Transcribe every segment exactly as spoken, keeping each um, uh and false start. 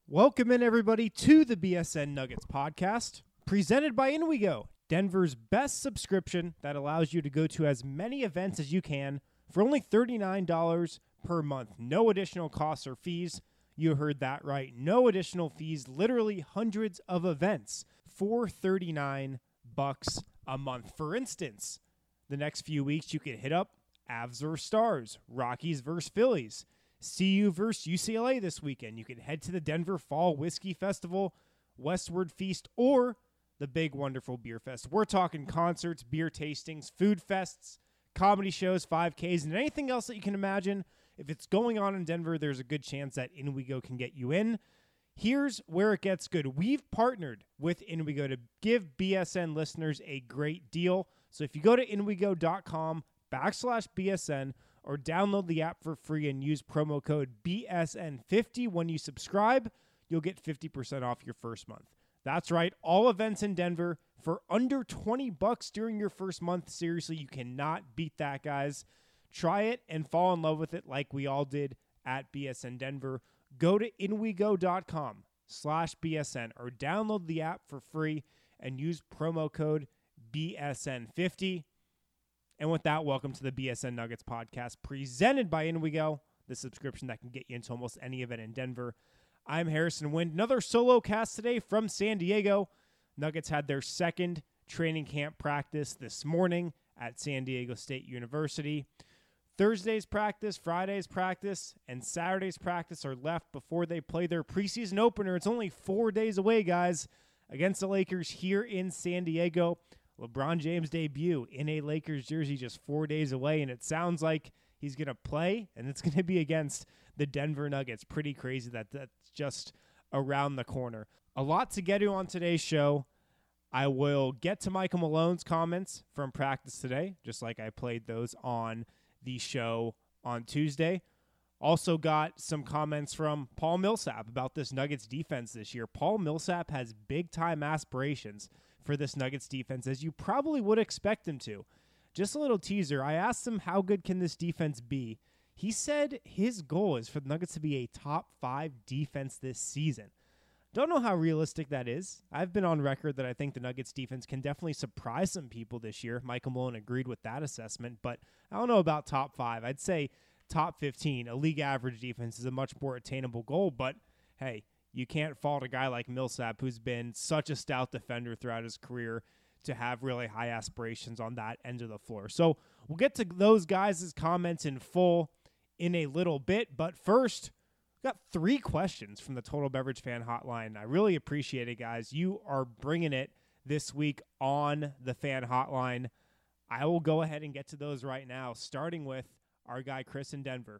Welcome in, everybody, to the B S N Nuggets podcast, presented by InWeGo, Denver's best subscription that allows you to go to as many events as you can for only thirty-nine dollars per month. No additional costs or fees. You heard that right. No additional fees. Literally hundreds of events for thirty-nine bucks a month. For instance, the next few weeks you could hit up Avs versus Stars, Rockies versus Phillies, C U versus U C L A this weekend. You can head to the Denver Fall Whiskey Festival, Westward Feast, or the Big Wonderful Beer Fest. We're talking concerts, beer tastings, food fests, comedy shows, five Ks, and anything else that you can imagine. If it's going on in Denver, there's a good chance that InWeGo can get you in. Here's where it gets good. We've partnered with InWeGo to give B S N listeners a great deal. So if you go to InWeGo.com backslash BSN, or download the app for free and use promo code B S N fifty when you subscribe, you'll get fifty percent off your first month. That's right, all events in Denver for under twenty bucks during your first month. Seriously, you cannot beat that, guys. Try it and fall in love with it like we all did at B S N Denver. Go to InWeGo.com slash BSN or download the app for free and use promo code B S N fifty. And with that, welcome to the B S N Nuggets podcast presented by InWeGo, the subscription that can get you into almost any event in Denver. I'm Harrison Wind. Another solo cast today from San Diego. Nuggets had their second training camp practice this morning at San Diego State University. Thursday's practice, Friday's practice, and Saturday's practice are left before they play their preseason opener. It's only four days away, guys, against the Lakers here in San Diego. LeBron James' debut in a Lakers jersey just four days away, and it sounds like he's going to play, and it's going to be against the Denver Nuggets. Pretty crazy that that's just around the corner. A lot to get to on today's show. I will get to Michael Malone's comments from practice today, just like I played those on the show on Tuesday. Also got some comments from Paul Millsap about this Nuggets defense this year. Paul Millsap has big-time aspirations for this Nuggets defense, as you probably would expect him to. Just a little teaser. I asked him, how good can this defense be? He said his goal is for the Nuggets to be a top five defense this season. Don't know how realistic that is. I've been on record that I think the Nuggets defense can definitely surprise some people this year. Michael Malone agreed with that assessment, but I don't know about top five. I'd say top fifteen. A league average defense is a much more attainable goal, but hey, you can't fault a guy like Millsap, who's been such a stout defender throughout his career, to have really high aspirations on that end of the floor. So we'll get to those guys' comments in full in a little bit. But first, we've got three questions from the Total Beverage Fan Hotline. I really appreciate it, guys. You are bringing it this week on the Fan Hotline. I will go ahead and get to those right now, starting with our guy Chris in Denver.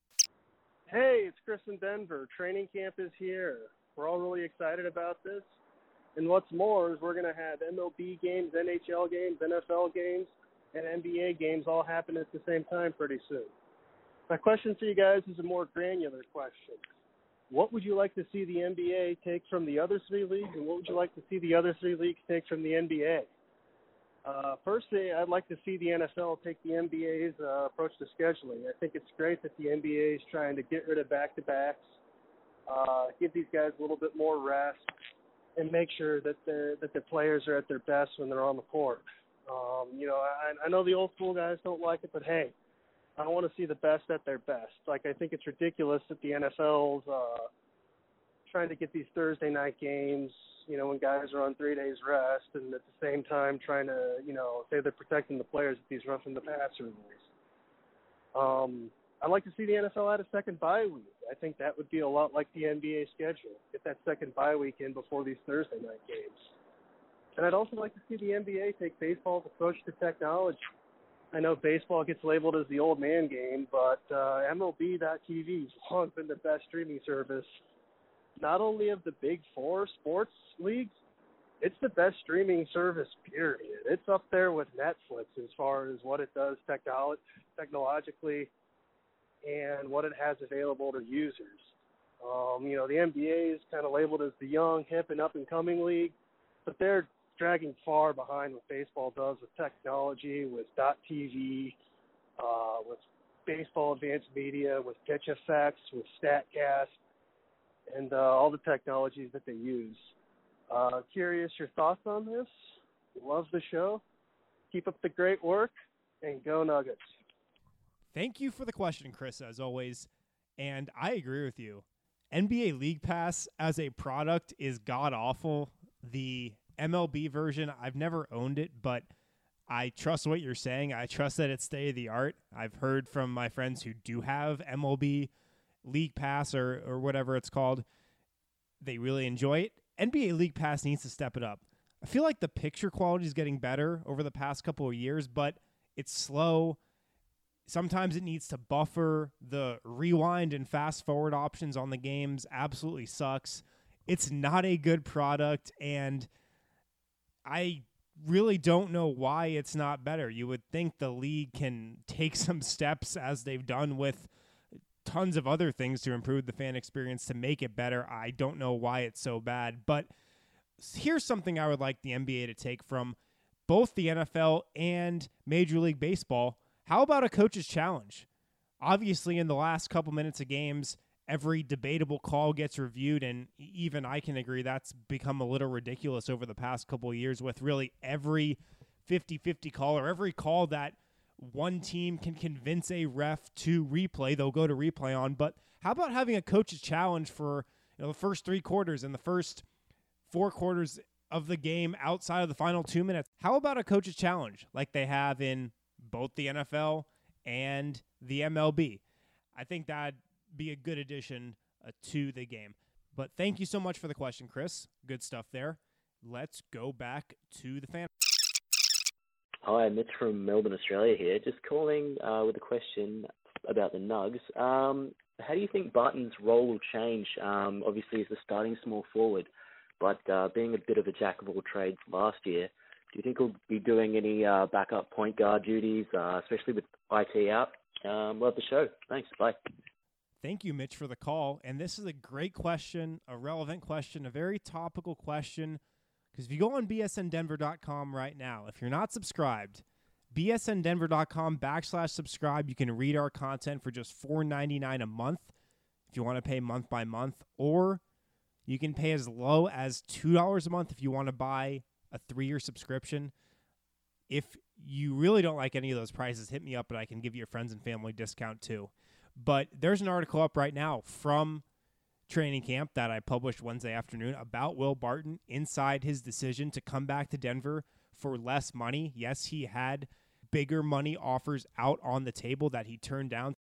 Hey, it's Chris in Denver. Training camp is here. We're all really excited about this. And what's more is we're going to have M L B games, N H L games, N F L games, and N B A games all happen at the same time pretty soon. My question for you guys is a more granular question. What would you like to see the N B A take from the other three leagues, and what would you like to see the other three leagues take from the N B A? Uh, firstly, I'd like to see the N F L take the N B A's uh, approach to scheduling. I think it's great that the N B A is trying to get rid of back-to-backs, uh, give these guys a little bit more rest, and make sure that the that the players are at their best when they're on the court. Um, you know, I, I know the old school guys don't like it, but hey, I want to see the best at their best. Like, I think it's ridiculous that the N F L's uh, trying to get these Thursday night games, you know, when guys are on three days rest, and at the same time trying to, you know, say they're protecting the players at these roughing the passer rules. Um, I'd like to see the N F L add a second bye week. I think that would be a lot like the N B A schedule. Get that second bye week in before these Thursday night games. And I'd also like to see the N B A take baseball's approach to technology. I know baseball gets labeled as the old man game, but uh, M L B dot T V has long been the best streaming service, not only of the big four sports leagues, it's the best streaming service, period. It's up there with Netflix as far as what it does technolo- technologically and what it has available to users. Um, you know, the N B A is kind of labeled as the young, hip, and up-and-coming league, but they're dragging far behind what baseball does with technology, with .tv, uh, with baseball advanced media, with pitch effects, with StatCast. and uh, all the technologies that they use. Uh, curious your thoughts on this. Love the show. Keep up the great work, and go Nuggets. Thank you for the question, Chris, as always. And I agree with you. N B A League Pass as a product is god-awful. The M L B version, I've never owned it, but I trust what you're saying. I trust that it's state-of-the-art. I've heard from my friends who do have M L B League Pass or, or whatever it's called. They really enjoy it. N B A League Pass needs to step it up. I feel like the picture quality is getting better over the past couple of years, but it's slow. Sometimes it needs to buffer. The rewind and fast forward options on the games absolutely sucks. It's not a good product, and I really don't know why it's not better. You would think the league can take some steps, as they've done with tons of other things, to improve the fan experience, to make it better. I don't know why it's so bad, but here's something I would like the N B A to take from both the N F L and Major League Baseball. How about a coach's challenge? Obviously, in the last couple minutes of games, every debatable call gets reviewed, and even I can agree that's become a little ridiculous over the past couple of years, with really every fifty-fifty call, or every call that one team can convince a ref to replay, they'll go to replay on. But how about having a coach's challenge for, you know, the first three quarters and the first four quarters of the game outside of the final two minutes? How about a coach's challenge like they have in both the N F L and the M L B? I think that'd be a good addition uh, to the game. But thank you so much for the question, Chris. Good stuff there. Let's go back to the fan. Hi, Mitch from Melbourne, Australia here. Just calling uh, with a question about the Nugs. Um, how do you think Barton's role will change? Um, obviously, he's the starting small forward, but uh, being a bit of a jack of all trades last year, do you think he'll be doing any uh, backup point guard duties, uh, especially with I T out? Um, love the show. Thanks. Bye. Thank you, Mitch, for the call. And this is a great question, a relevant question, a very topical question. Because if you go on B S N Denver dot com right now, if you're not subscribed, B S N Denver dot com backslash subscribe, you can read our content for just four ninety-nine a month if you want to pay month by month. Or you can pay as low as two dollars a month if you want to buy a three-year subscription. If you really don't like any of those prices, hit me up and I can give you a friends and family discount too. But there's an article up right now from training camp that I published Wednesday afternoon about Will Barton inside his decision to come back to Denver for less money. Yes, he had bigger money offers out on the table that he turned down.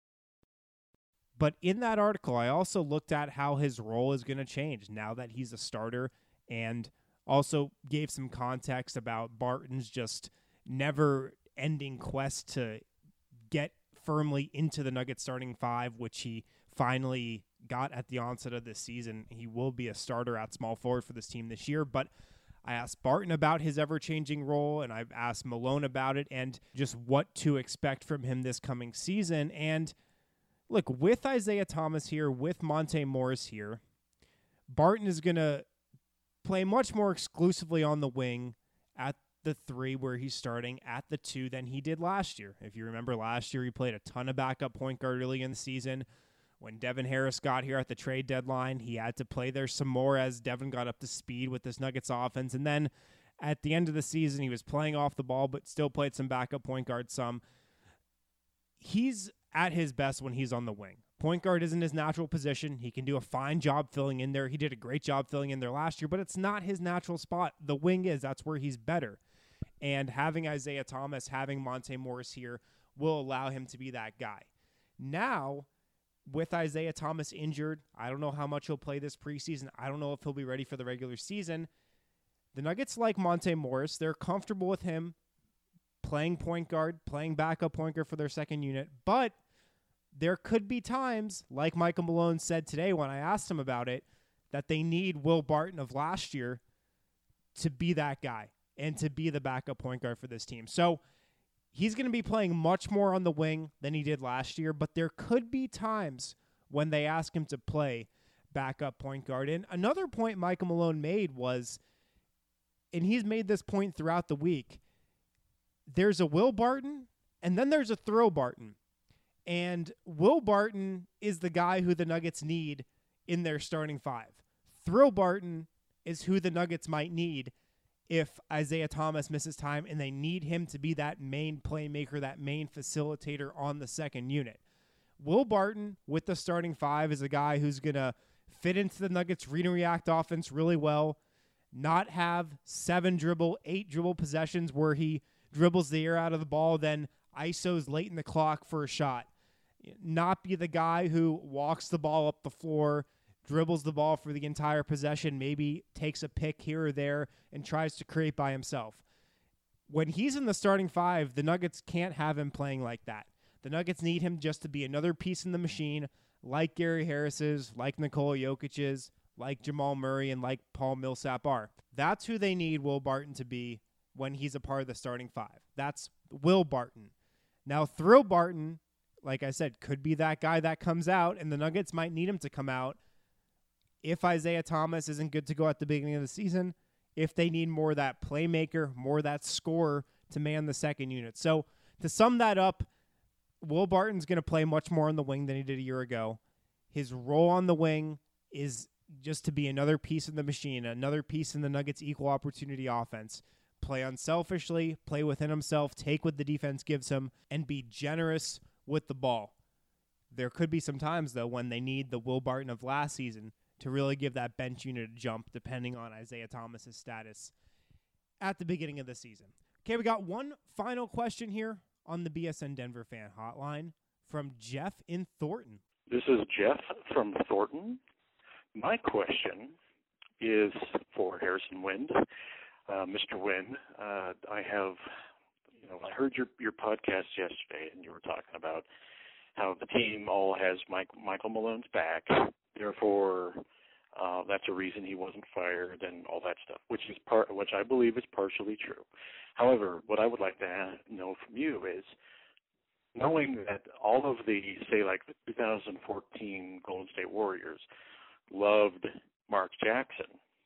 But in that article, I also looked at how his role is going to change now that he's a starter, and also gave some context about Barton's just never-ending quest to get firmly into the Nuggets starting five, which he finally got at the onset of this season. He will be a starter at small forward for this team this year, but I asked Barton about his ever-changing role, and I've asked Malone about it, and just what to expect from him this coming season. And look, with Isaiah Thomas here, with Monte Morris here, Barton is going to play much more exclusively on the wing at the three, where he's starting at the two, than he did last year. If you remember last year, he played a ton of backup point guard early in the season. When Devin Harris got here at the trade deadline, he had to play there some more as Devin got up to speed with this Nuggets offense. And then at the end of the season, he was playing off the ball, but still played some backup point guard some. He's at his best when he's on the wing. Point guard isn't his natural position. He can do a fine job filling in there. He did a great job filling in there last year, but it's not his natural spot. The wing is. That's where he's better. And having Isaiah Thomas, having Monte Morris here will allow him to be that guy. Now, with Isaiah Thomas injured, I don't know how much he'll play this preseason. I don't know if he'll be ready for the regular season. The Nuggets like Monte Morris. They're comfortable with him playing point guard, playing backup point guard for their second unit. But there could be times, like Michael Malone said today when I asked him about it, that they need Will Barton of last year to be that guy and to be the backup point guard for this team. So he's going to be playing much more on the wing than he did last year, but there could be times when they ask him to play backup point guard. And another point Michael Malone made was, and he's made this point throughout the week, there's a Will Barton and then there's a throw Barton. And Will Barton is the guy who the Nuggets need in their starting five. Thrill Barton is who the Nuggets might need if Isaiah Thomas misses time and they need him to be that main playmaker, that main facilitator on the second unit. Will Barton, with the starting five, is a guy who's going to fit into the Nuggets' read and react offense really well, not have seven dribble, eight dribble possessions where he dribbles the air out of the ball, then I S Os late in the clock for a shot. Not be the guy who walks the ball up the floor, dribbles the ball for the entire possession, maybe takes a pick here or there, and tries to create by himself. When he's in the starting five, the Nuggets can't have him playing like that. The Nuggets need him just to be another piece in the machine, like Gary Harris's, like Nikola Jokic's, like Jamal Murray, and like Paul Millsap are. That's who they need Will Barton to be when he's a part of the starting five. That's Will Barton. Now, Thrill Barton, like I said, could be that guy that comes out, and the Nuggets might need him to come out if Isaiah Thomas isn't good to go at the beginning of the season, if they need more of that playmaker, more of that scorer to man the second unit. So to sum that up, Will Barton's going to play much more on the wing than he did a year ago. His role on the wing is just to be another piece in the machine, another piece in the Nuggets' equal opportunity offense. Play unselfishly, play within himself, take what the defense gives him, and be generous with the ball. There could be some times, though, when they need the Will Barton of last season to really give that bench unit a jump, depending on Isaiah Thomas's status at the beginning of the season. Okay, we got one final question here on the B S N Denver Fan Hotline from Jeff in Thornton. This is Jeff from Thornton. My question is for Harrison Wind. Uh, Mister Wind, uh, I have, you know, I heard your, your podcast yesterday, and you were talking about how the team all has Mike, Michael Malone's back. Therefore, uh, that's a reason he wasn't fired and all that stuff, which is part, which I believe is partially true. However, what I would like to have, know from you is, knowing that all of the, say, like the two thousand fourteen Golden State Warriors loved Mark Jackson,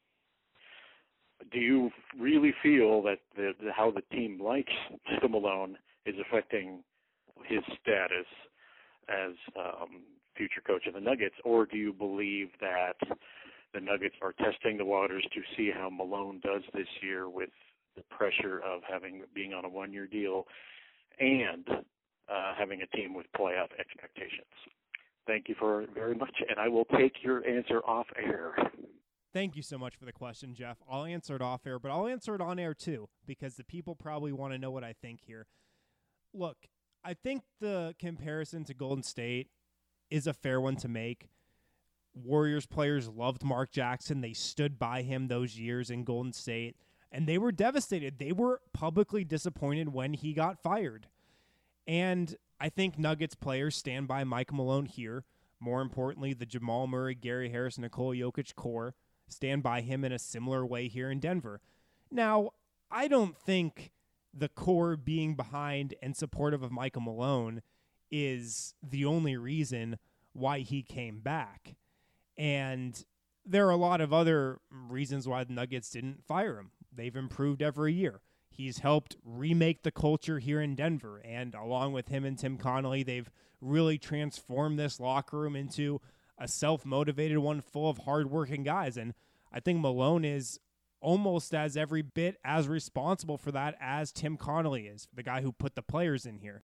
do you really feel that the, the, how the team likes Michael Malone is affecting his status as um, future coach of the Nuggets, or do you believe that the Nuggets are testing the waters to see how Malone does this year with the pressure of having being on a one-year deal and uh, having a team with playoff expectations? Thank you for very much, and I will take your answer off air. Thank you so much for the question, Jeff. I'll answer it off air, but I'll answer it on air too, because the people probably want to know what I think here. Look, I think the comparison to Golden State is a fair one to make. Warriors players loved Mark Jackson. They stood by him those years in Golden State, and they were devastated. They were publicly disappointed when he got fired. And I think Nuggets players stand by Mike Malone here. More importantly, the Jamal Murray, Gary Harris, Nikola Jokic core stand by him in a similar way here in Denver. Now, I don't think the core being behind and supportive of Michael Malone is the only reason why he came back. And there are a lot of other reasons why the Nuggets didn't fire him. They've improved every year. He's helped remake the culture here in Denver. And along with him and Tim Connolly, they've really transformed this locker room into a self-motivated one full of hardworking guys. And I think Malone is almost as every bit as responsible for that as Tim Connolly is, the guy who put the players in here.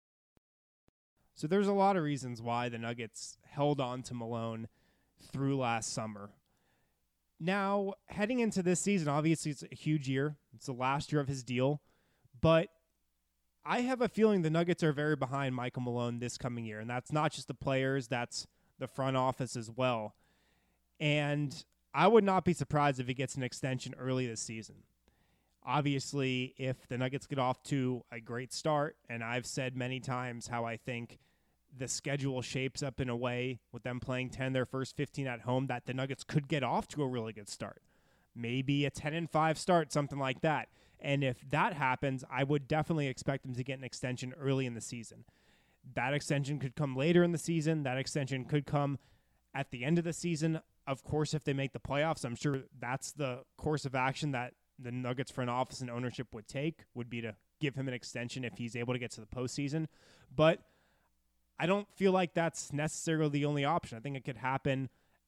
So there's a lot of reasons why the Nuggets held on to Malone through last summer. Now, heading into this season, obviously it's a huge year. It's the last year of his deal. But I have a feeling the Nuggets are very behind Michael Malone this coming year. And that's not just the players, that's the front office as well. And I would not be surprised if he gets an extension early this season. Obviously, if the Nuggets get off to a great start, and I've said many times how I think the schedule shapes up in a way with them playing ten their first fifteen at home that the Nuggets could get off to a really good start. Maybe a ten and five start, something like that. And if that happens, I would definitely expect them to get an extension early in the season. That extension could come later in the season. That extension could come at the end of the season. Of course, if they make the playoffs, I'm sure that's the course of action that the Nuggets front office and ownership would take, would be to give him an extension if he's able to get to the postseason. But I don't feel like that's necessarily the only option. I think it could happen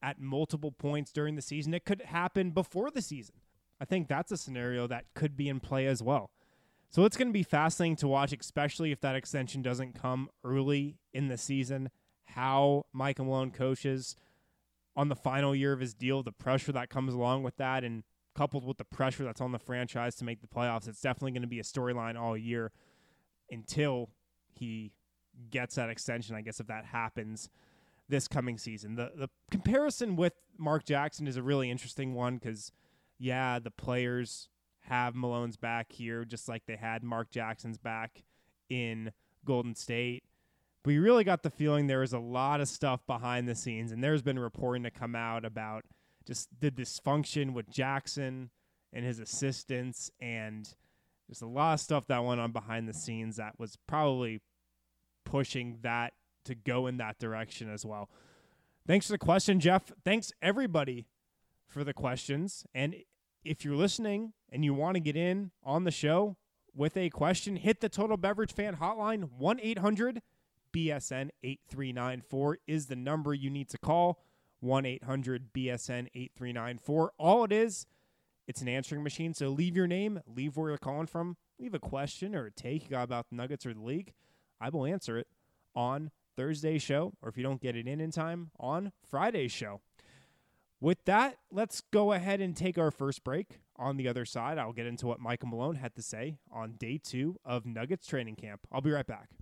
at multiple points during the season. It could happen before the season. I think that's a scenario that could be in play as well. So it's going to be fascinating to watch, especially if that extension doesn't come early in the season, how Mike Malone coaches on the final year of his deal, the pressure that comes along with that, and coupled with the pressure that's on the franchise to make the playoffs. It's definitely going to be a storyline all year until he gets that extension, I guess, if that happens this coming season. The the comparison with Mark Jackson is a really interesting one because, yeah, the players have Malone's back here just like they had Mark Jackson's back in Golden State. But you really got the feeling there was a lot of stuff behind the scenes, and there's been reporting to come out about just the dysfunction with Jackson and his assistants, and there's a lot of stuff that went on behind the scenes that was probably pushing that to go in that direction as well. Thanks for the question, Jeff. Thanks, everybody, for the questions. And if you're listening and you want to get in on the show with a question, hit the Total Beverage Fan Hotline. one eight hundred B S N eight three nine four is the number you need to call. one eight hundred B S N eight three nine four. All it is, it's an answering machine. So leave your name, leave where you're calling from, leave a question or a take you got about the Nuggets or the league. I will answer it on Thursday's show, or if you don't get it in in time, on Friday's show. With that, let's go ahead and take our first break. On the other side, I'll get into what Michael Malone had to say on day two of Nuggets training camp. I'll be right back.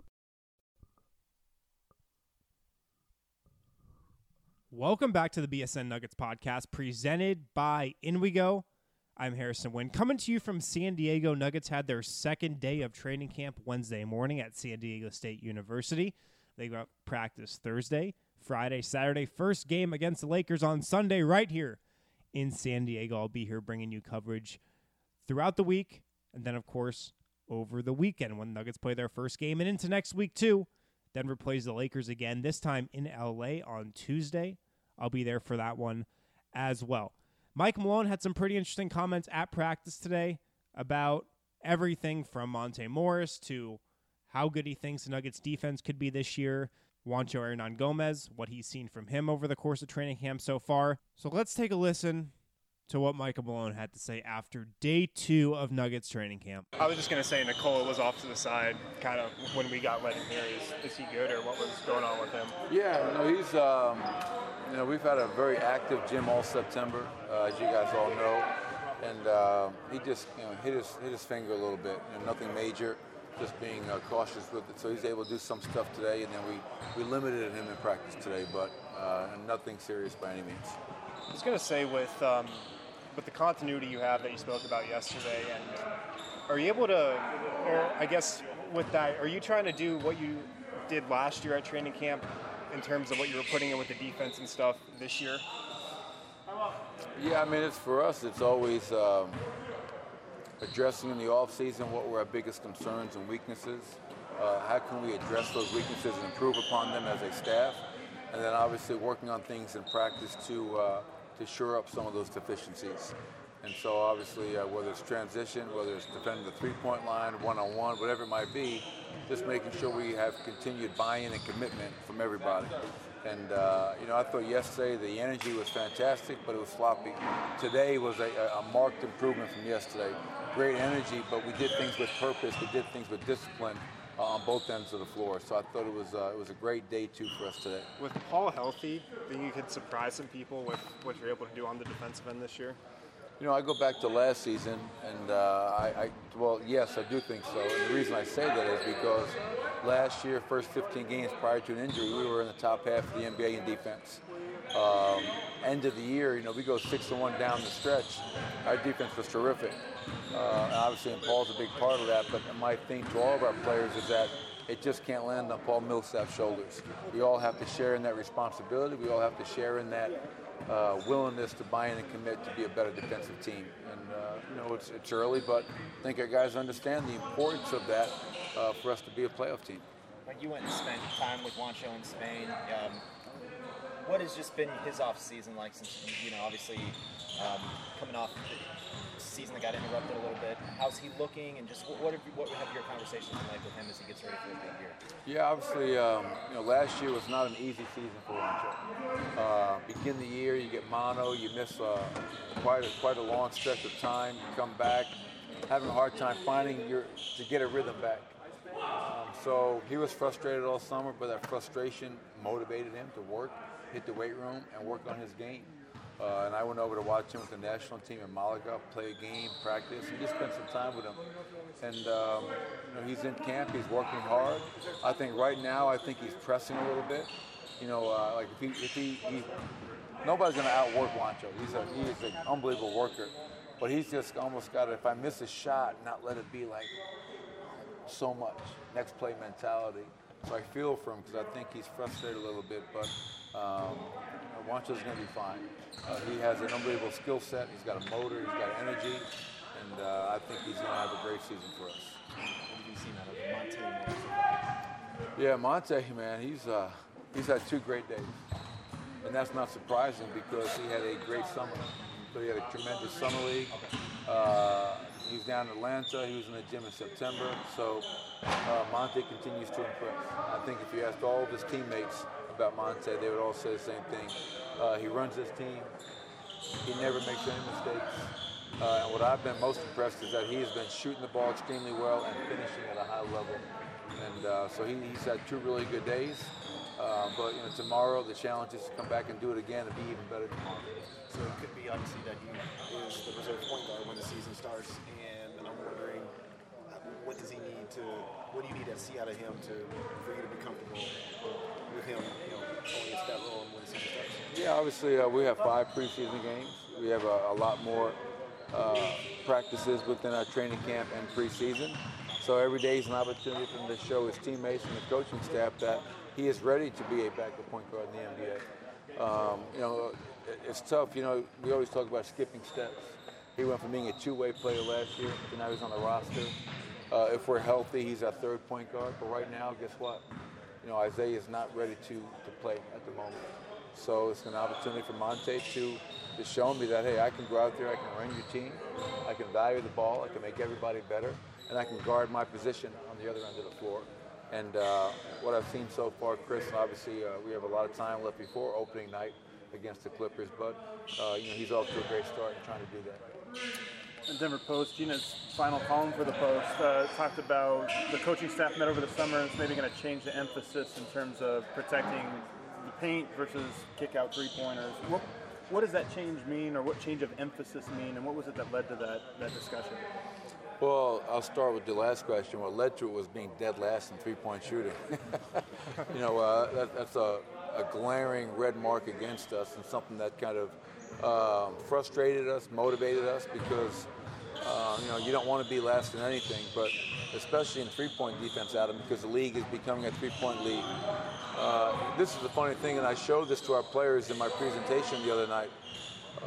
Welcome back to the B S N Nuggets podcast presented by In We Go. I'm Harrison Wynn. Coming to you from San Diego, Nuggets had their second day of training camp Wednesday morning at San Diego State University. They got practice Thursday, Friday, Saturday. First game against the Lakers on Sunday right here in San Diego. I'll be here bringing you coverage throughout the week, and then, of course, over the weekend when the Nuggets play their first game, and into next week, too. Denver plays the Lakers again, this time in L A on Tuesday. I'll be there for that one as well. Mike Malone had some pretty interesting comments at practice today about everything from Monte Morris to how good he thinks the Nuggets defense could be this year, Juancho Hernan-Gomez, what he's seen from him over the course of training camp so far. So let's take a listen to what Michael Malone had to say after day two of Nuggets training camp. I was just going to say Nikola was off to the side kind of when we got let in here. Is, is he good, or what was going on with him? Yeah, no, he's, um, you know, we've had a very active gym all September, uh, as you guys all know. And uh, he just, you know, hit his, hit his finger a little bit. You know, nothing major, just being uh, cautious with it. So he's able to do some stuff today, and then we, we limited him in practice today, but uh, nothing serious by any means. I was going to say with um, with the continuity you have that you spoke about yesterday, and are you able to, or I guess with that, are you trying to do what you did last year at training camp in terms of what you were putting in with the defense and stuff this year? Yeah, I mean, it's for us, it's always um, addressing in the offseason what were our biggest concerns and weaknesses. Uh, how can we address those weaknesses and improve upon them as a staff? And then obviously working on things in practice to uh, to shore up some of those deficiencies. And so obviously uh, whether it's transition, whether it's defending the three-point line, one-on-one, whatever it might be, just making sure we have continued buy-in and commitment from everybody. And, uh, you know, I thought yesterday the energy was fantastic, but it was sloppy. Today was a, a marked improvement from yesterday. Great energy, but we did things with purpose. We did things with discipline uh, on both ends of the floor. So I thought it was uh, it was a great day two for us today. With Paul healthy, think you could surprise some people with what you're able to do on the defensive end this year? You know, I go back to last season, and uh, I, I, well, yes, I do think so. And the reason I say that is because last year, first fifteen games prior to an injury, we were in the top half of the N B A in defense. Um, end of the year, you know, we go six and one down the stretch. Our defense was terrific. Uh, and obviously, and Paul's a big part of that. But my thing to all of our players is that it just can't land on Paul Millsap's shoulders. We all have to share in that responsibility. We all have to share in that Uh, willingness to buy in and commit to be a better defensive team. And, uh, you know, it's, it's early, but I think our guys understand the importance of that uh, for us to be a playoff team. Like you went and spent time with Juancho in Spain. Um, what has just been his off season like since, you know, obviously um, coming off the season that got interrupted a little bit. How's he looking, and just what have, you, what have your conversations been like with him as he gets ready for his big year? Yeah, obviously, um, you know, last year was not an easy season for Juancho. Uh, begin the year, you get mono, you miss uh, quite a, quite a long stretch of time, you come back, having a hard time finding your to get a rhythm back. Um, so he was frustrated all summer, but that frustration motivated him to work, hit the weight room, and work on his game. Uh, and I went over to watch him with the national team in Malaga, play a game, practice, and just spend some time with him. And um, you know, he's in camp, he's working hard. I think right now, I think he's pressing a little bit. You know, uh, like if he, if he, he nobody's going to outwork Juancho. He's a he's an unbelievable worker, but he's just almost got to, if I miss a shot, not let it be like so much next play mentality. So I feel for him because I think he's frustrated a little bit, but um, Juancho's going to be fine. Uh, he has an unbelievable skill set. He's got a motor. He's got energy, and uh, I think he's going to have a great season for us. What have you seen out of Monte? Yeah, Monte, man, he's uh, he's had two great days, and that's not surprising because he had a great summer. So he had a tremendous summer league. Uh, he was down in Atlanta. He was in the gym in September. So uh, Monte continues to impress. I think if you asked all of his teammates about Monte, they would all say the same thing. Uh, he runs his team. He never makes any mistakes. Uh, and what I've been most impressed is that he has been shooting the ball extremely well and finishing at a high level. And uh, so he, he's had two really good days. Uh, but you know, tomorrow the challenge is to come back and do it again and be even better tomorrow. So it could be obviously that he is the reserve point guard when the season starts, and I'm wondering what does he need to, what do you need to see out of him to for you to be comfortable with him, you know, going into that role when the season starts? Yeah, obviously uh, we have five preseason games. We have a, a lot more uh, practices within our training camp and preseason. So every day is an opportunity for him to show his teammates and the coaching staff that he is ready to be a backup point guard in the N B A. Um, you know, it's tough. You know, we always talk about skipping steps. He went from being a two-way player last year to now he's on the roster. Uh, if we're healthy, he's our third point guard. But right now, guess what? You know, Isaiah is not ready to, to play at the moment. So it's an opportunity for Monte to, to show me that, hey, I can go out there, I can run your team, I can value the ball, I can make everybody better, and I can guard my position on the other end of the floor. And uh, what I've seen so far, Chris, obviously uh, we have a lot of time left before opening night against the Clippers, but uh, you know, he's off to a great start in trying to do that. The Denver Post, Gina's final column for the Post, uh, talked about the coaching staff met over the summer and it's maybe going to change the emphasis in terms of protecting the paint versus kick-out three-pointers. What, what does that change mean, or what change of emphasis mean, and what was it that led to that, that discussion? Well, I'll start with the last question. What led to it was being dead last in three-point shooting. you know, uh, that, that's a, a glaring red mark against us, and something that kind of um, frustrated us, motivated us, because uh, you know, you don't want to be last in anything, but especially in three-point defense, Adam, because the league is becoming a three-point league. Uh, this is the funny thing, and I showed this to our players in my presentation the other night. Uh,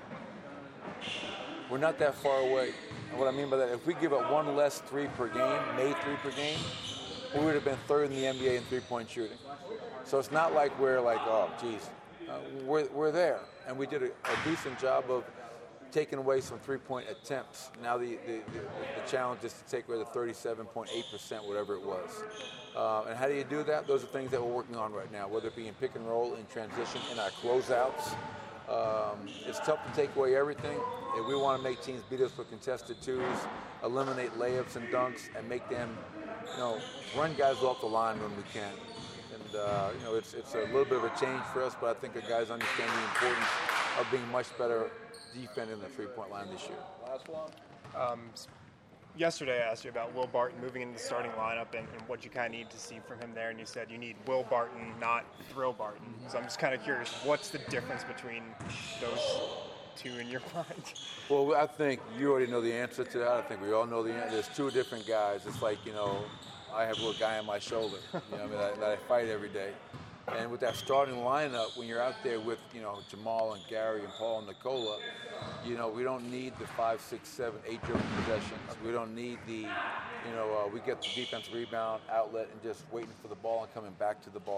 we're not that far away. And what I mean by that, if we give up one less three per game, made three per game, we would have been third in the N B A in three-point shooting. So it's not like we're like, oh, geez, uh, we're, we're there. And we did a, a decent job of taking away some three-point attempts. Now the, the, the, the challenge is to take away the thirty-seven point eight percent, whatever it was. Uh, and how do you do that? Those are things that we're working on right now, whether it be in pick and roll, in transition, in our closeouts. Um, it's tough to take away everything. If we want to make teams beat us for contested twos, eliminate layups and dunks, and make them, you know, run guys off the line when we can. And, uh, you know, it's, it's a little bit of a change for us, but I think the guys understand the importance of being much better defending the three-point line this year. Last one. Um, yesterday I asked you about Will Barton moving into the starting lineup and, and what you kind of need to see from him there, and you said you need Will Barton, not Thrill Barton. Mm-hmm. So I'm just kind of curious, what's the difference between those two in your mind? Well, I think you already know the answer to that. I think we all know the answer. There's two different guys. It's like, you know, I have a little guy on my shoulder, you know, I mean, that, that I fight every day. And with that starting lineup, when you're out there with, you know, Jamal and Gary and Paul and Nikola, you know, we don't need the five, six, seven, eight driven possessions. We don't need the, you know, uh, we get the defensive rebound, outlet, and just waiting for the ball and coming back to the ball.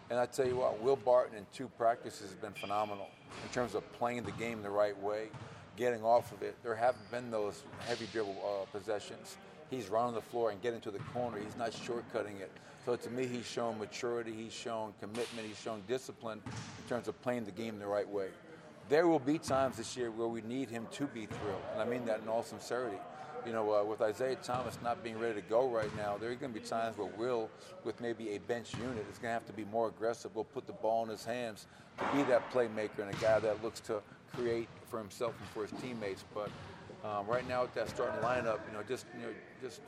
And I tell you what, Will Barton in two practices has been phenomenal in terms of playing the game the right way, getting off of it. There haven't been those heavy dribble uh, possessions. He's running the floor and getting to the corner. He's not shortcutting it. So to me, he's shown maturity, he's shown commitment, he's shown discipline in terms of playing the game the right way. There will be times this year where we need him to be thrilled, and I mean that in all sincerity. You know, uh, with Isaiah Thomas not being ready to go right now, there are going to be times where Will, with maybe a bench unit, is going to have to be more aggressive. We'll put the ball in his hands to be that playmaker and a guy that looks to create for himself and for his teammates. But um, right now with that starting lineup, you know, just you know, just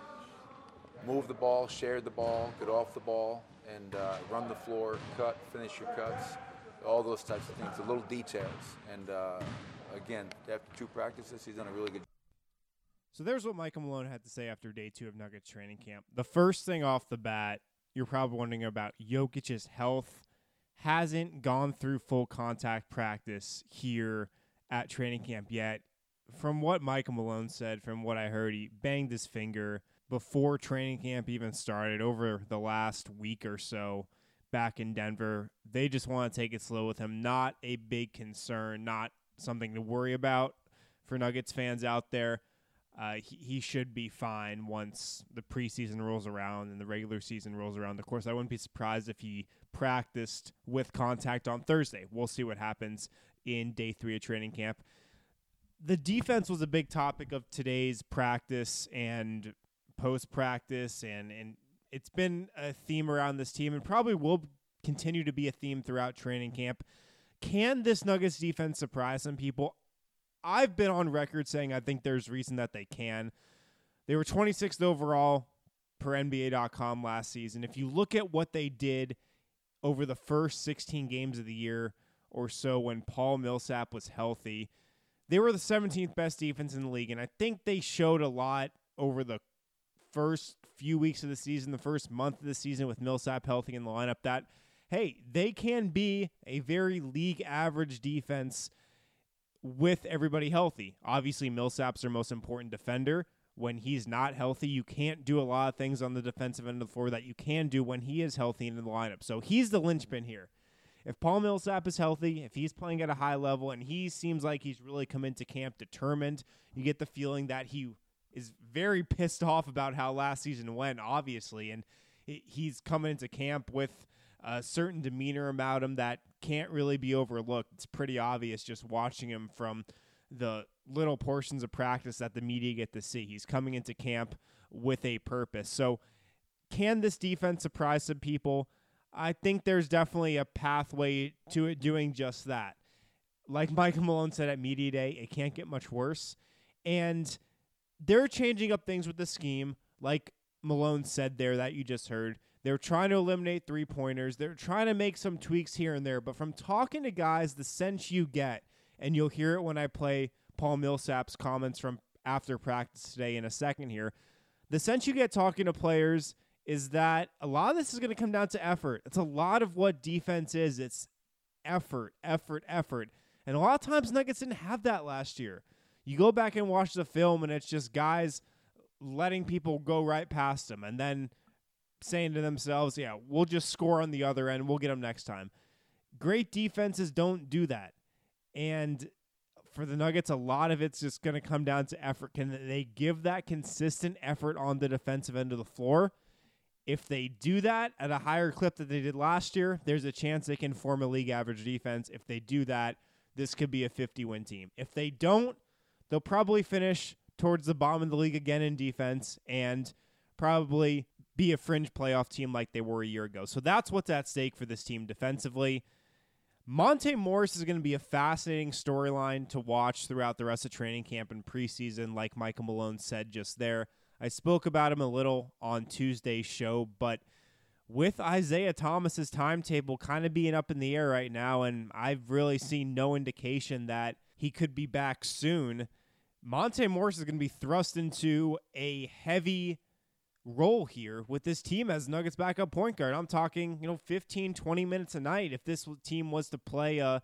move the ball, share the ball, get off the ball, and uh, run the floor, cut, finish your cuts, all those types of things, the little details. And uh, again, after two practices, he's done a really good job. So there's what Michael Malone had to say after day two of Nuggets training camp. The first thing off the bat, you're probably wondering about Jokic's health. Hasn't gone through full contact practice here at training camp yet. From what Michael Malone said, from what I heard, he banged his finger before training camp even started over the last week or so back in Denver. They just want to take it slow with him. Not a big concern, not something to worry about for Nuggets fans out there. Uh, he, he should be fine once the preseason rolls around and the regular season rolls around. Of course, I wouldn't be surprised if he practiced with contact on Thursday. We'll see what happens in day three of training camp. The defense was a big topic of today's practice and post-practice, and, and it's been a theme around this team and probably will continue to be a theme throughout training camp. Can this Nuggets defense surprise some people? I've been on record saying I think there's reason that they can. They were twenty-sixth overall per N B A dot com last season. If you look at what they did over the first sixteen games of the year or so when Paul Millsap was healthy, they were the seventeenth best defense in the league, and I think they showed a lot over the first few weeks of the season, the first month of the season with Millsap healthy in the lineup, that, hey, they can be a very league average defense with everybody healthy. Obviously, Millsap's their most important defender. When he's not healthy, you can't do a lot of things on the defensive end of the floor that you can do when he is healthy and in the lineup. So he's the linchpin here. If Paul Millsap is healthy, if he's playing at a high level, and he seems like he's really come into camp determined, you get the feeling that he is very pissed off about how last season went, obviously, and he's coming into camp with a certain demeanor about him that can't really be overlooked. It's pretty obvious just watching him from the little portions of practice that the media get to see. He's coming into camp with a purpose. So can this defense surprise some people? I think there's definitely a pathway to it doing just that. Like Michael Malone said at Media Day, it can't get much worse. And they're changing up things with the scheme, like Malone said there that you just heard. They're trying to eliminate three-pointers. They're trying to make some tweaks here and there. But from talking to guys, the sense you get, and you'll hear it when I play Paul Millsap's comments from after practice today in a second here, the sense you get talking to players is that a lot of this is going to come down to effort. It's a lot of what defense is. It's effort, effort, effort. And a lot of times Nuggets didn't have that last year. You go back and watch the film, and it's just guys letting people go right past them and then saying to themselves, yeah, we'll just score on the other end. We'll get them next time. Great defenses don't do that. And for the Nuggets, a lot of it's just going to come down to effort. Can they give that consistent effort on the defensive end of the floor? If they do that at a higher clip that they did last year, there's a chance they can form a league average defense. If they do that, this could be a fifty-win team. If they don't, they'll probably finish towards the bottom of the league again in defense and probably be a fringe playoff team like they were a year ago. So that's what's at stake for this team defensively. Monte Morris is going to be a fascinating storyline to watch throughout the rest of training camp and preseason, like Michael Malone said just there. I spoke about him a little on Tuesday's show, but with Isaiah Thomas's timetable kind of being up in the air right now, and I've really seen no indication that he could be back soon, Monte Morris is going to be thrust into a heavy role here with this team as Nuggets backup point guard. I'm talking, you know, fifteen, twenty minutes a night. If this team was to play a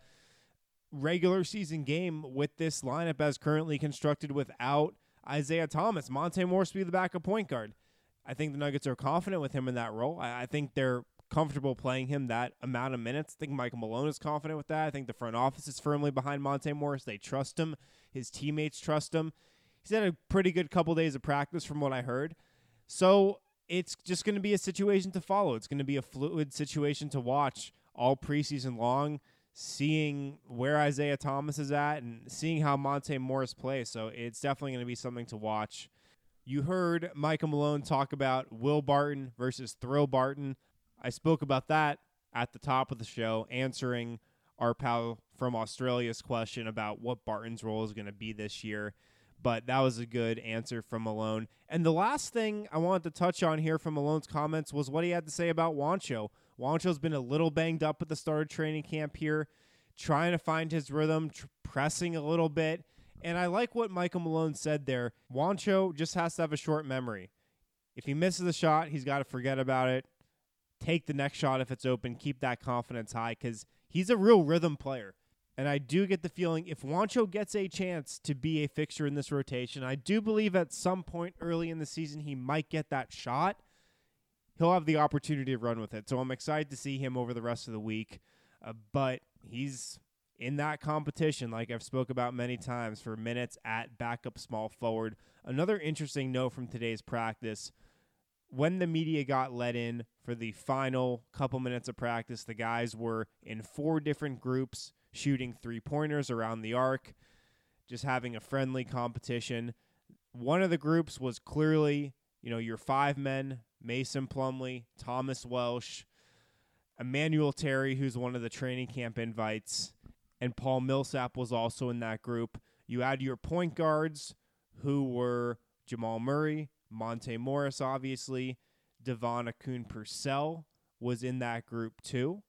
regular season game with this lineup as currently constructed without Isaiah Thomas, Monte Morris would be the backup point guard. I think the Nuggets are confident with him in that role. I, I think they're comfortable playing him that amount of minutes. I think Michael Malone is confident with that. I think the front office is firmly behind Monte Morris. They trust him. His teammates trust him. He's had a pretty good couple days of practice from what I heard. So it's just going to be a situation to follow. It's going to be a fluid situation to watch all preseason long, seeing where Isaiah Thomas is at and seeing how Monte Morris plays. So it's definitely going to be something to watch. You heard Michael Malone talk about Will Barton versus Thrill Barton. I spoke about that at the top of the show, answering our pal from Australia's question about what Barton's role is going to be this year. But that was a good answer from Malone. And the last thing I wanted to touch on here from Malone's comments was what he had to say about Juancho. Juancho's been a little banged up at the start of training camp here, trying to find his rhythm, tr- pressing a little bit. And I like what Michael Malone said there. Juancho just has to have a short memory. If he misses a shot, he's got to forget about it. Take the next shot if it's open. Keep that confidence high because he's a real rhythm player. And I do get the feeling if Juancho gets a chance to be a fixture in this rotation, I do believe at some point early in the season he might get that shot. He'll have the opportunity to run with it. So I'm excited to see him over the rest of the week. Uh, but he's in that competition, like I've spoke about many times, for minutes at backup small forward. Another interesting note from today's practice, when the media got let in for the final couple minutes of practice, the guys were in four different groups, shooting three-pointers around the arc, just having a friendly competition. One of the groups was clearly, you know, your five men, Mason Plumlee, Thomas Welsh, Emmanuel Terry, who's one of the training camp invites, and Paul Millsap was also in that group. You had your point guards, who were Jamal Murray, Monte Morris, obviously. Devon Akun-Purcell was in that group too,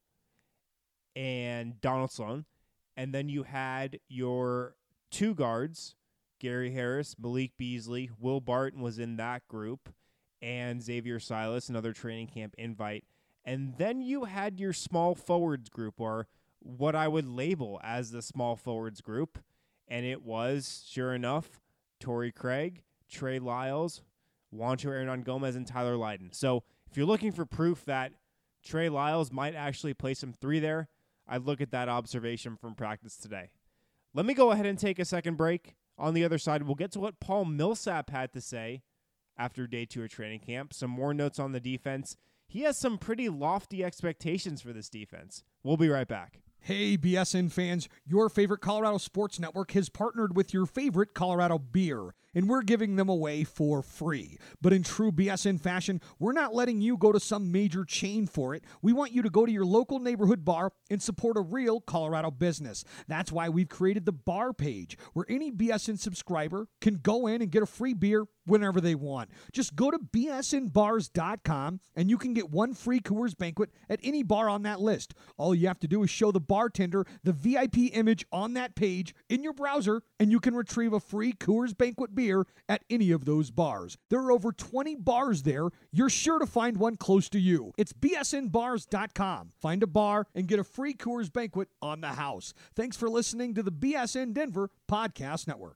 and Donald Sloan. And then you had your two guards, Gary Harris, Malik Beasley, Will Barton was in that group, and Xavier Silas, another training camp invite. And then you had your small forwards group, or what I would label as the small forwards group, and it was, sure enough, Torrey Craig, Trey Lyles, Juancho Hernan-Gomez, and Tyler Lydon. So if you're looking for proof that Trey Lyles might actually play some three there, I'd look at that observation from practice today. Let me go ahead and take a second break. On the other side, we'll get to what Paul Millsap had to say after day two of training camp. Some more notes on the defense. He has some pretty lofty expectations for this defense. We'll be right back. Hey, B S N fans, your favorite Colorado Sports Network has partnered with your favorite Colorado beer, and we're giving them away for free. But in true B S N fashion, we're not letting you go to some major chain for it. We want you to go to your local neighborhood bar and support a real Colorado business. That's why we've created the bar page, where any B S N subscriber can go in and get a free beer whenever they want. Just go to B S N bars dot com, and you can get one free Coors Banquet at any bar on that list. All you have to do is show the bartender the V I P image on that page in your browser, and you can retrieve a free Coors Banquet beer at any of those bars. There are over twenty bars there. You're sure to find one close to you. It's B S N bars dot com. Find a bar and get a free Coors Banquet on the house. Thanks for listening to the B S N Denver Podcast Network.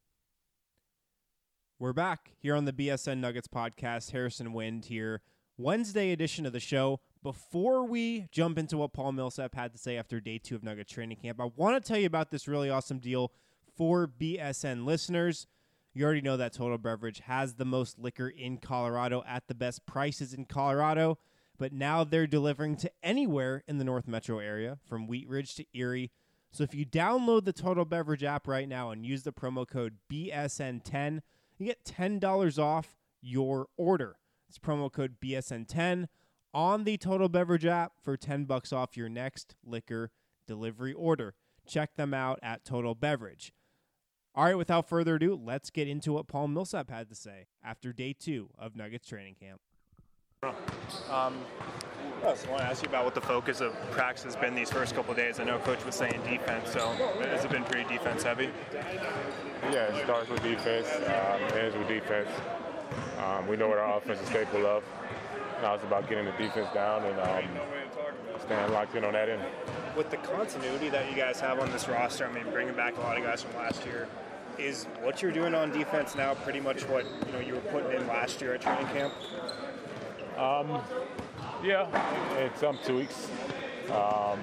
We're back here on the B S N Nuggets podcast. Harrison Wind here. Wednesday edition of the show. Before we jump into what Paul Millsap had to say after day two of Nuggets training camp, I want to tell you about this really awesome deal for B S N listeners. You already know that Total Beverage has the most liquor in Colorado at the best prices in Colorado, but now they're delivering to anywhere in the North Metro area, from Wheat Ridge to Erie. So if you download the Total Beverage app right now and use the promo code B S N ten, you get ten dollars off your order. It's promo code B S N ten on the Total Beverage app for ten bucks off your next liquor delivery order. Check them out at Total Beverage. All right, without further ado, let's get into what Paul Millsap had to say after day two of Nuggets training camp. Um, I just want to ask you about what the focus of practice has been these first couple of days. I know Coach was saying defense, so has it been pretty defense heavy? Yeah, it starts with defense, um, ends with defense. Um, we know what our offense is capable of. Now it's about getting the defense down and um, staying locked in on that end. With the continuity that you guys have on this roster, I mean, bringing back a lot of guys from last year, is what you're doing on defense now pretty much what you know you were putting in last year at training camp? Um, Yeah, and some tweaks. Um,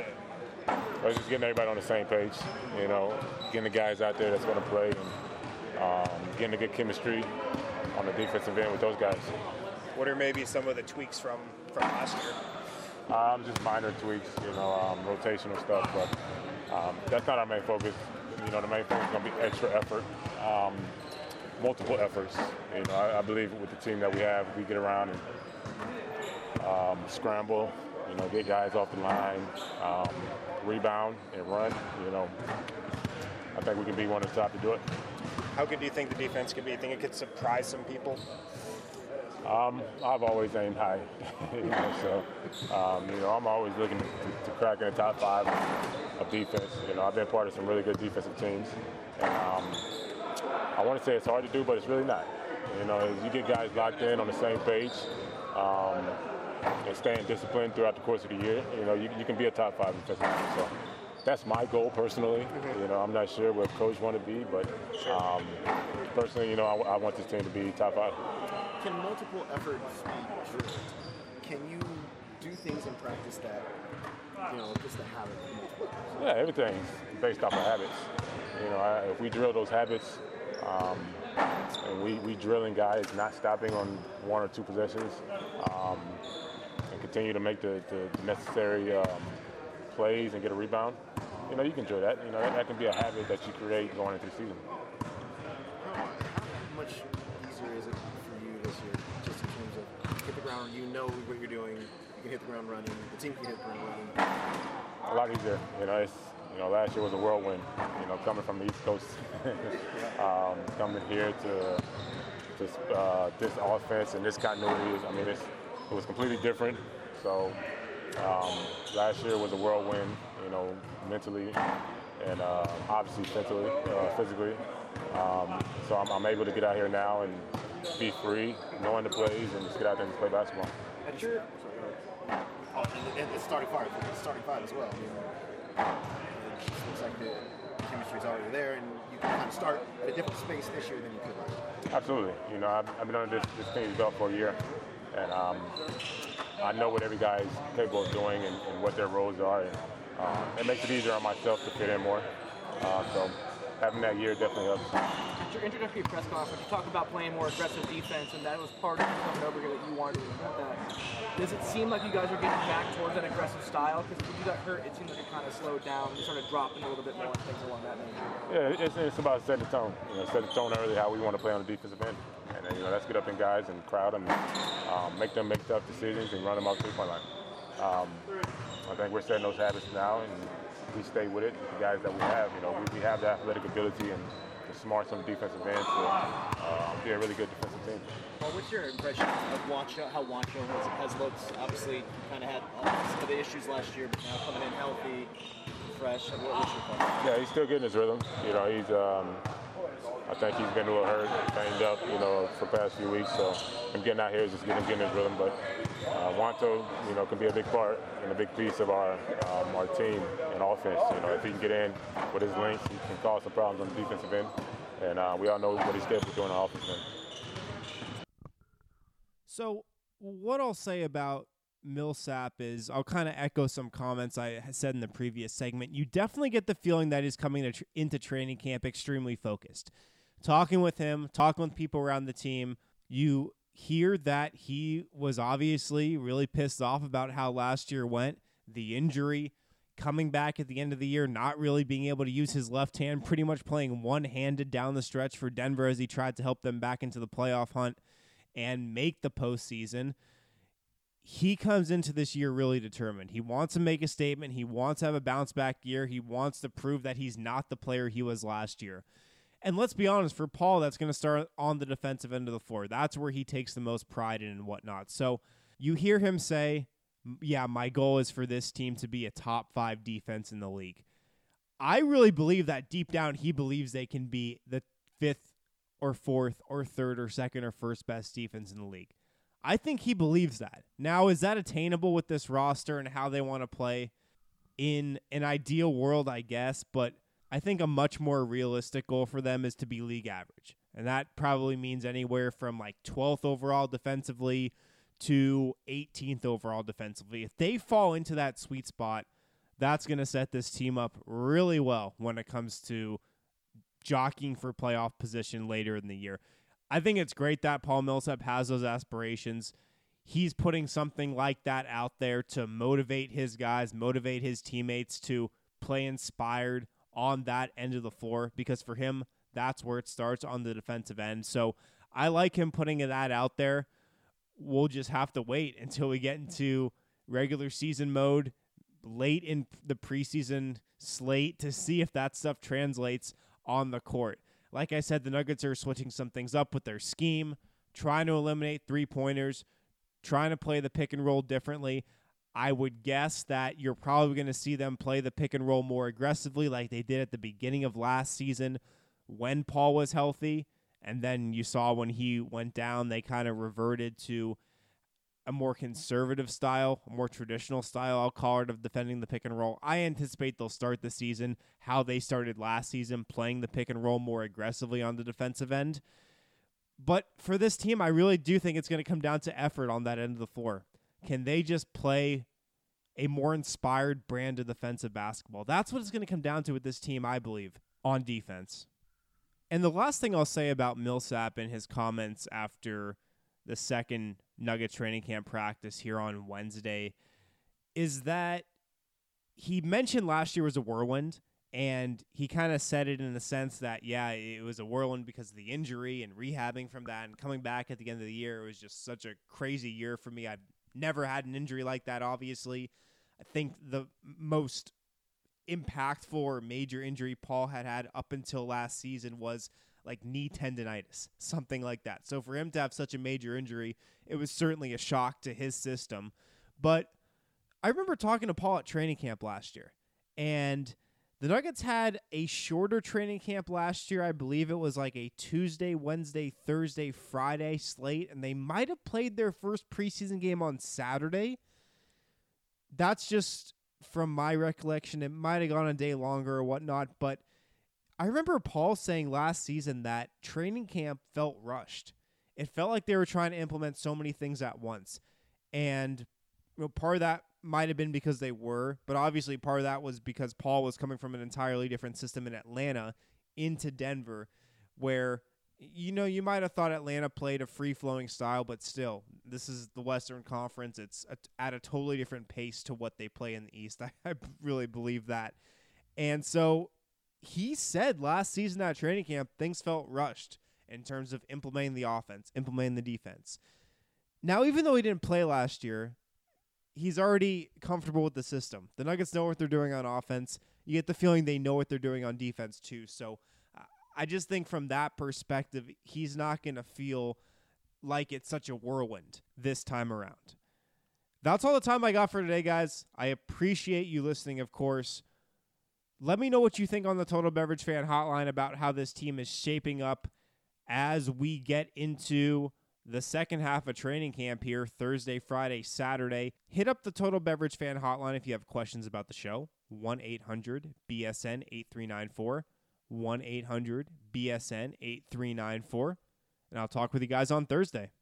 but just getting everybody on the same page, you know, getting the guys out there that's going to play and um, getting a good chemistry on the defensive end with those guys. What are maybe some of the tweaks from, from last year? Um, just minor tweaks, you know, um, rotational stuff, but um, that's not our main focus. You know, the main focus is going to be extra effort, um, multiple efforts. You know, I, I believe with the team that we have, we get around and um, scramble, you know, get guys off the line, um, rebound and run. You know, I think we can be one of the top to do it. How good do you think the defense could be? You think it could surprise some people? Um, I've always aimed high, you know, so um, you know I'm always looking to, to crack in the top five of defense. You know, I've been part of some really good defensive teams, and um, I want to say it's hard to do, but it's really not. You know, as you get guys locked in on the same page um, and staying disciplined throughout the course of the year, you know, you, you can be a top five defensive team. So that's my goal personally. You know, I'm not sure what coach want to be, but um, personally, you know, I, I want this team to be top five. Can multiple efforts be drilled? Can you do things in practice that, you know, just the habit of multiple efforts? Yeah, everything's based off of habits. You know, I, if we drill those habits, um, and we, we drilling guys not stopping on one or two possessions, um, and continue to make the, the, the necessary um, plays and get a rebound, you know, you can drill that. You know, that, that can be a habit that you create going into the season. How, how much easier is it for you this year, just in terms of hit the ground, you know what you're doing, you can hit the ground running, the team can hit the ground running? A lot easier. You know, it's, you know, last year was a whirlwind, you know, coming from the East Coast, um, coming here to, to uh, this offense and this continuity. I mean, it's, it was completely different. So um, last year was a whirlwind, you know, mentally and uh, obviously physically. Uh, physically. Um, so I'm, I'm able to get out here now and be free, knowing the plays, and just get out there and play basketball. At your, oh, and, and the starting five, the starting five as well. I mean, it just looks like the chemistry is already there, and you can kind of start at a different space this year than you could last year. Absolutely. You know, I've, I've been under this, this team's belt for a year, and um, I know what every guy is capable of doing and, and what their roles are. And, uh, it makes it easier on myself to fit in more. Uh, so having that year definitely helps. At your introductory press conference, you talked about playing more aggressive defense, and that was part of you coming over here that you wanted to do that. Does it seem like you guys are getting back towards that aggressive style? Because when you got hurt, it seemed like it kind of slowed down. You started dropping a little bit more and things along that nature. Yeah, it's, it's about setting the tone. You know, set the tone early how we want to play on the defensive end. And then, you know, let's get up in guys and crowd them, and um, make them make tough decisions and run them off the three-point line. Um, I think we're setting those habits now, and we stay with it with the guys that we have. You know, we, we have the athletic ability and the smarts on the defensive end to uh, be a really good defensive team. Well, what's your impression of Juancho, how Juancho has, has looked? Obviously, kind of had uh, some of the issues last year, but now coming in healthy, fresh. What, what's your thoughts? Yeah, he's still getting his rhythm. You know, he's. Um, I think he's been a little hurt, banged up, you know, for the past few weeks. So him getting out here is just getting getting his rhythm. But uh, Juancho, you know, can be a big part and a big piece of our um, our team and offense. You know, if he can get in with his length, he can cause some problems on the defensive end. And uh, we all know what he's capable of doing on the offensive end. So what I'll say about Millsap is I'll kind of echo some comments I said in the previous segment. You definitely get the feeling that he's coming to tr- into training camp extremely focused. Talking with him, talking with people around the team, you hear that he was obviously really pissed off about how last year went, the injury, coming back at the end of the year, not really being able to use his left hand, pretty much playing one-handed down the stretch for Denver as he tried to help them back into the playoff hunt and make the postseason. He comes into this year really determined. He wants to make a statement. He wants to have a bounce-back year. He wants to prove that he's not the player he was last year. And let's be honest, for Paul, that's going to start on the defensive end of the floor. That's where he takes the most pride in and whatnot. So you hear him say, yeah, my goal is for this team to be a top five defense in the league. I really believe that deep down he believes they can be the fifth or fourth or third or second or first best defense in the league. I think he believes that. Now, is that attainable with this roster and how they want to play? In an ideal world, I guess, but I think a much more realistic goal for them is to be league average. And that probably means anywhere from like twelfth overall defensively to eighteenth overall defensively. If they fall into that sweet spot, that's going to set this team up really well when it comes to jockeying for playoff position later in the year. I think it's great that Paul Millsap has those aspirations. He's putting something like that out there to motivate his guys, motivate his teammates to play inspired on that end of the floor, because for him, that's where it starts, on the defensive end. So I like him putting that out there. We'll just have to wait until we get into regular season mode late in the preseason slate to see if that stuff translates on the court. Like I said, the Nuggets are switching some things up with their scheme, trying to eliminate three-pointers, trying to play the pick and roll differently. I would guess that you're probably going to see them play the pick and roll more aggressively like they did at the beginning of last season when Paul was healthy. And then you saw when he went down, they kind of reverted to a more conservative style, a more traditional style, I'll call it, of defending the pick and roll. I anticipate they'll start the season how they started last season, playing the pick and roll more aggressively on the defensive end. But for this team, I really do think it's going to come down to effort on that end of the floor. Can they just play a more inspired brand of defensive basketball? That's what it's going to come down to with this team, I believe, on defense. And the last thing I'll say about Millsap and his comments after the second Nuggets training camp practice here on Wednesday is that he mentioned last year was a whirlwind, and he kind of said it in the sense that, yeah, it was a whirlwind because of the injury and rehabbing from that and coming back at the end of the year. It was just such a crazy year for me. I've never had an injury like that, obviously. I think the most impactful or major injury Paul had had up until last season was like knee tendonitis, something like that. So for him to have such a major injury, it was certainly a shock to his system. But I remember talking to Paul at training camp last year, and the Nuggets had a shorter training camp last year. I believe it was like a Tuesday, Wednesday, Thursday, Friday slate, and they might have played their first preseason game on Saturday. That's just from my recollection. It might have gone a day longer or whatnot, but I remember Paul saying last season that training camp felt rushed. It felt like they were trying to implement so many things at once. And you know, part of that might have been because they were, but obviously part of that was because Paul was coming from an entirely different system in Atlanta into Denver, where, you know, you might have thought Atlanta played a free-flowing style, but still, this is the Western Conference. It's a, at a totally different pace to what they play in the East. I, I really believe that. And so he said last season at training camp, things felt rushed in terms of implementing the offense, implementing the defense. Now, even though he didn't play last year, he's already comfortable with the system. The Nuggets know what they're doing on offense. You get the feeling they know what they're doing on defense too. So uh, I just think from that perspective, he's not going to feel like it's such a whirlwind this time around. That's all the time I got for today, guys. I appreciate you listening, of course. Let me know what you think on the Total Beverage Fan Hotline about how this team is shaping up as we get into the second half of training camp here, Thursday, Friday, Saturday. Hit up the Total Beverage Fan Hotline if you have questions about the show. one eight hundred B S N eight three nine four. one eight hundred B S N eight three nine four. And I'll talk with you guys on Thursday.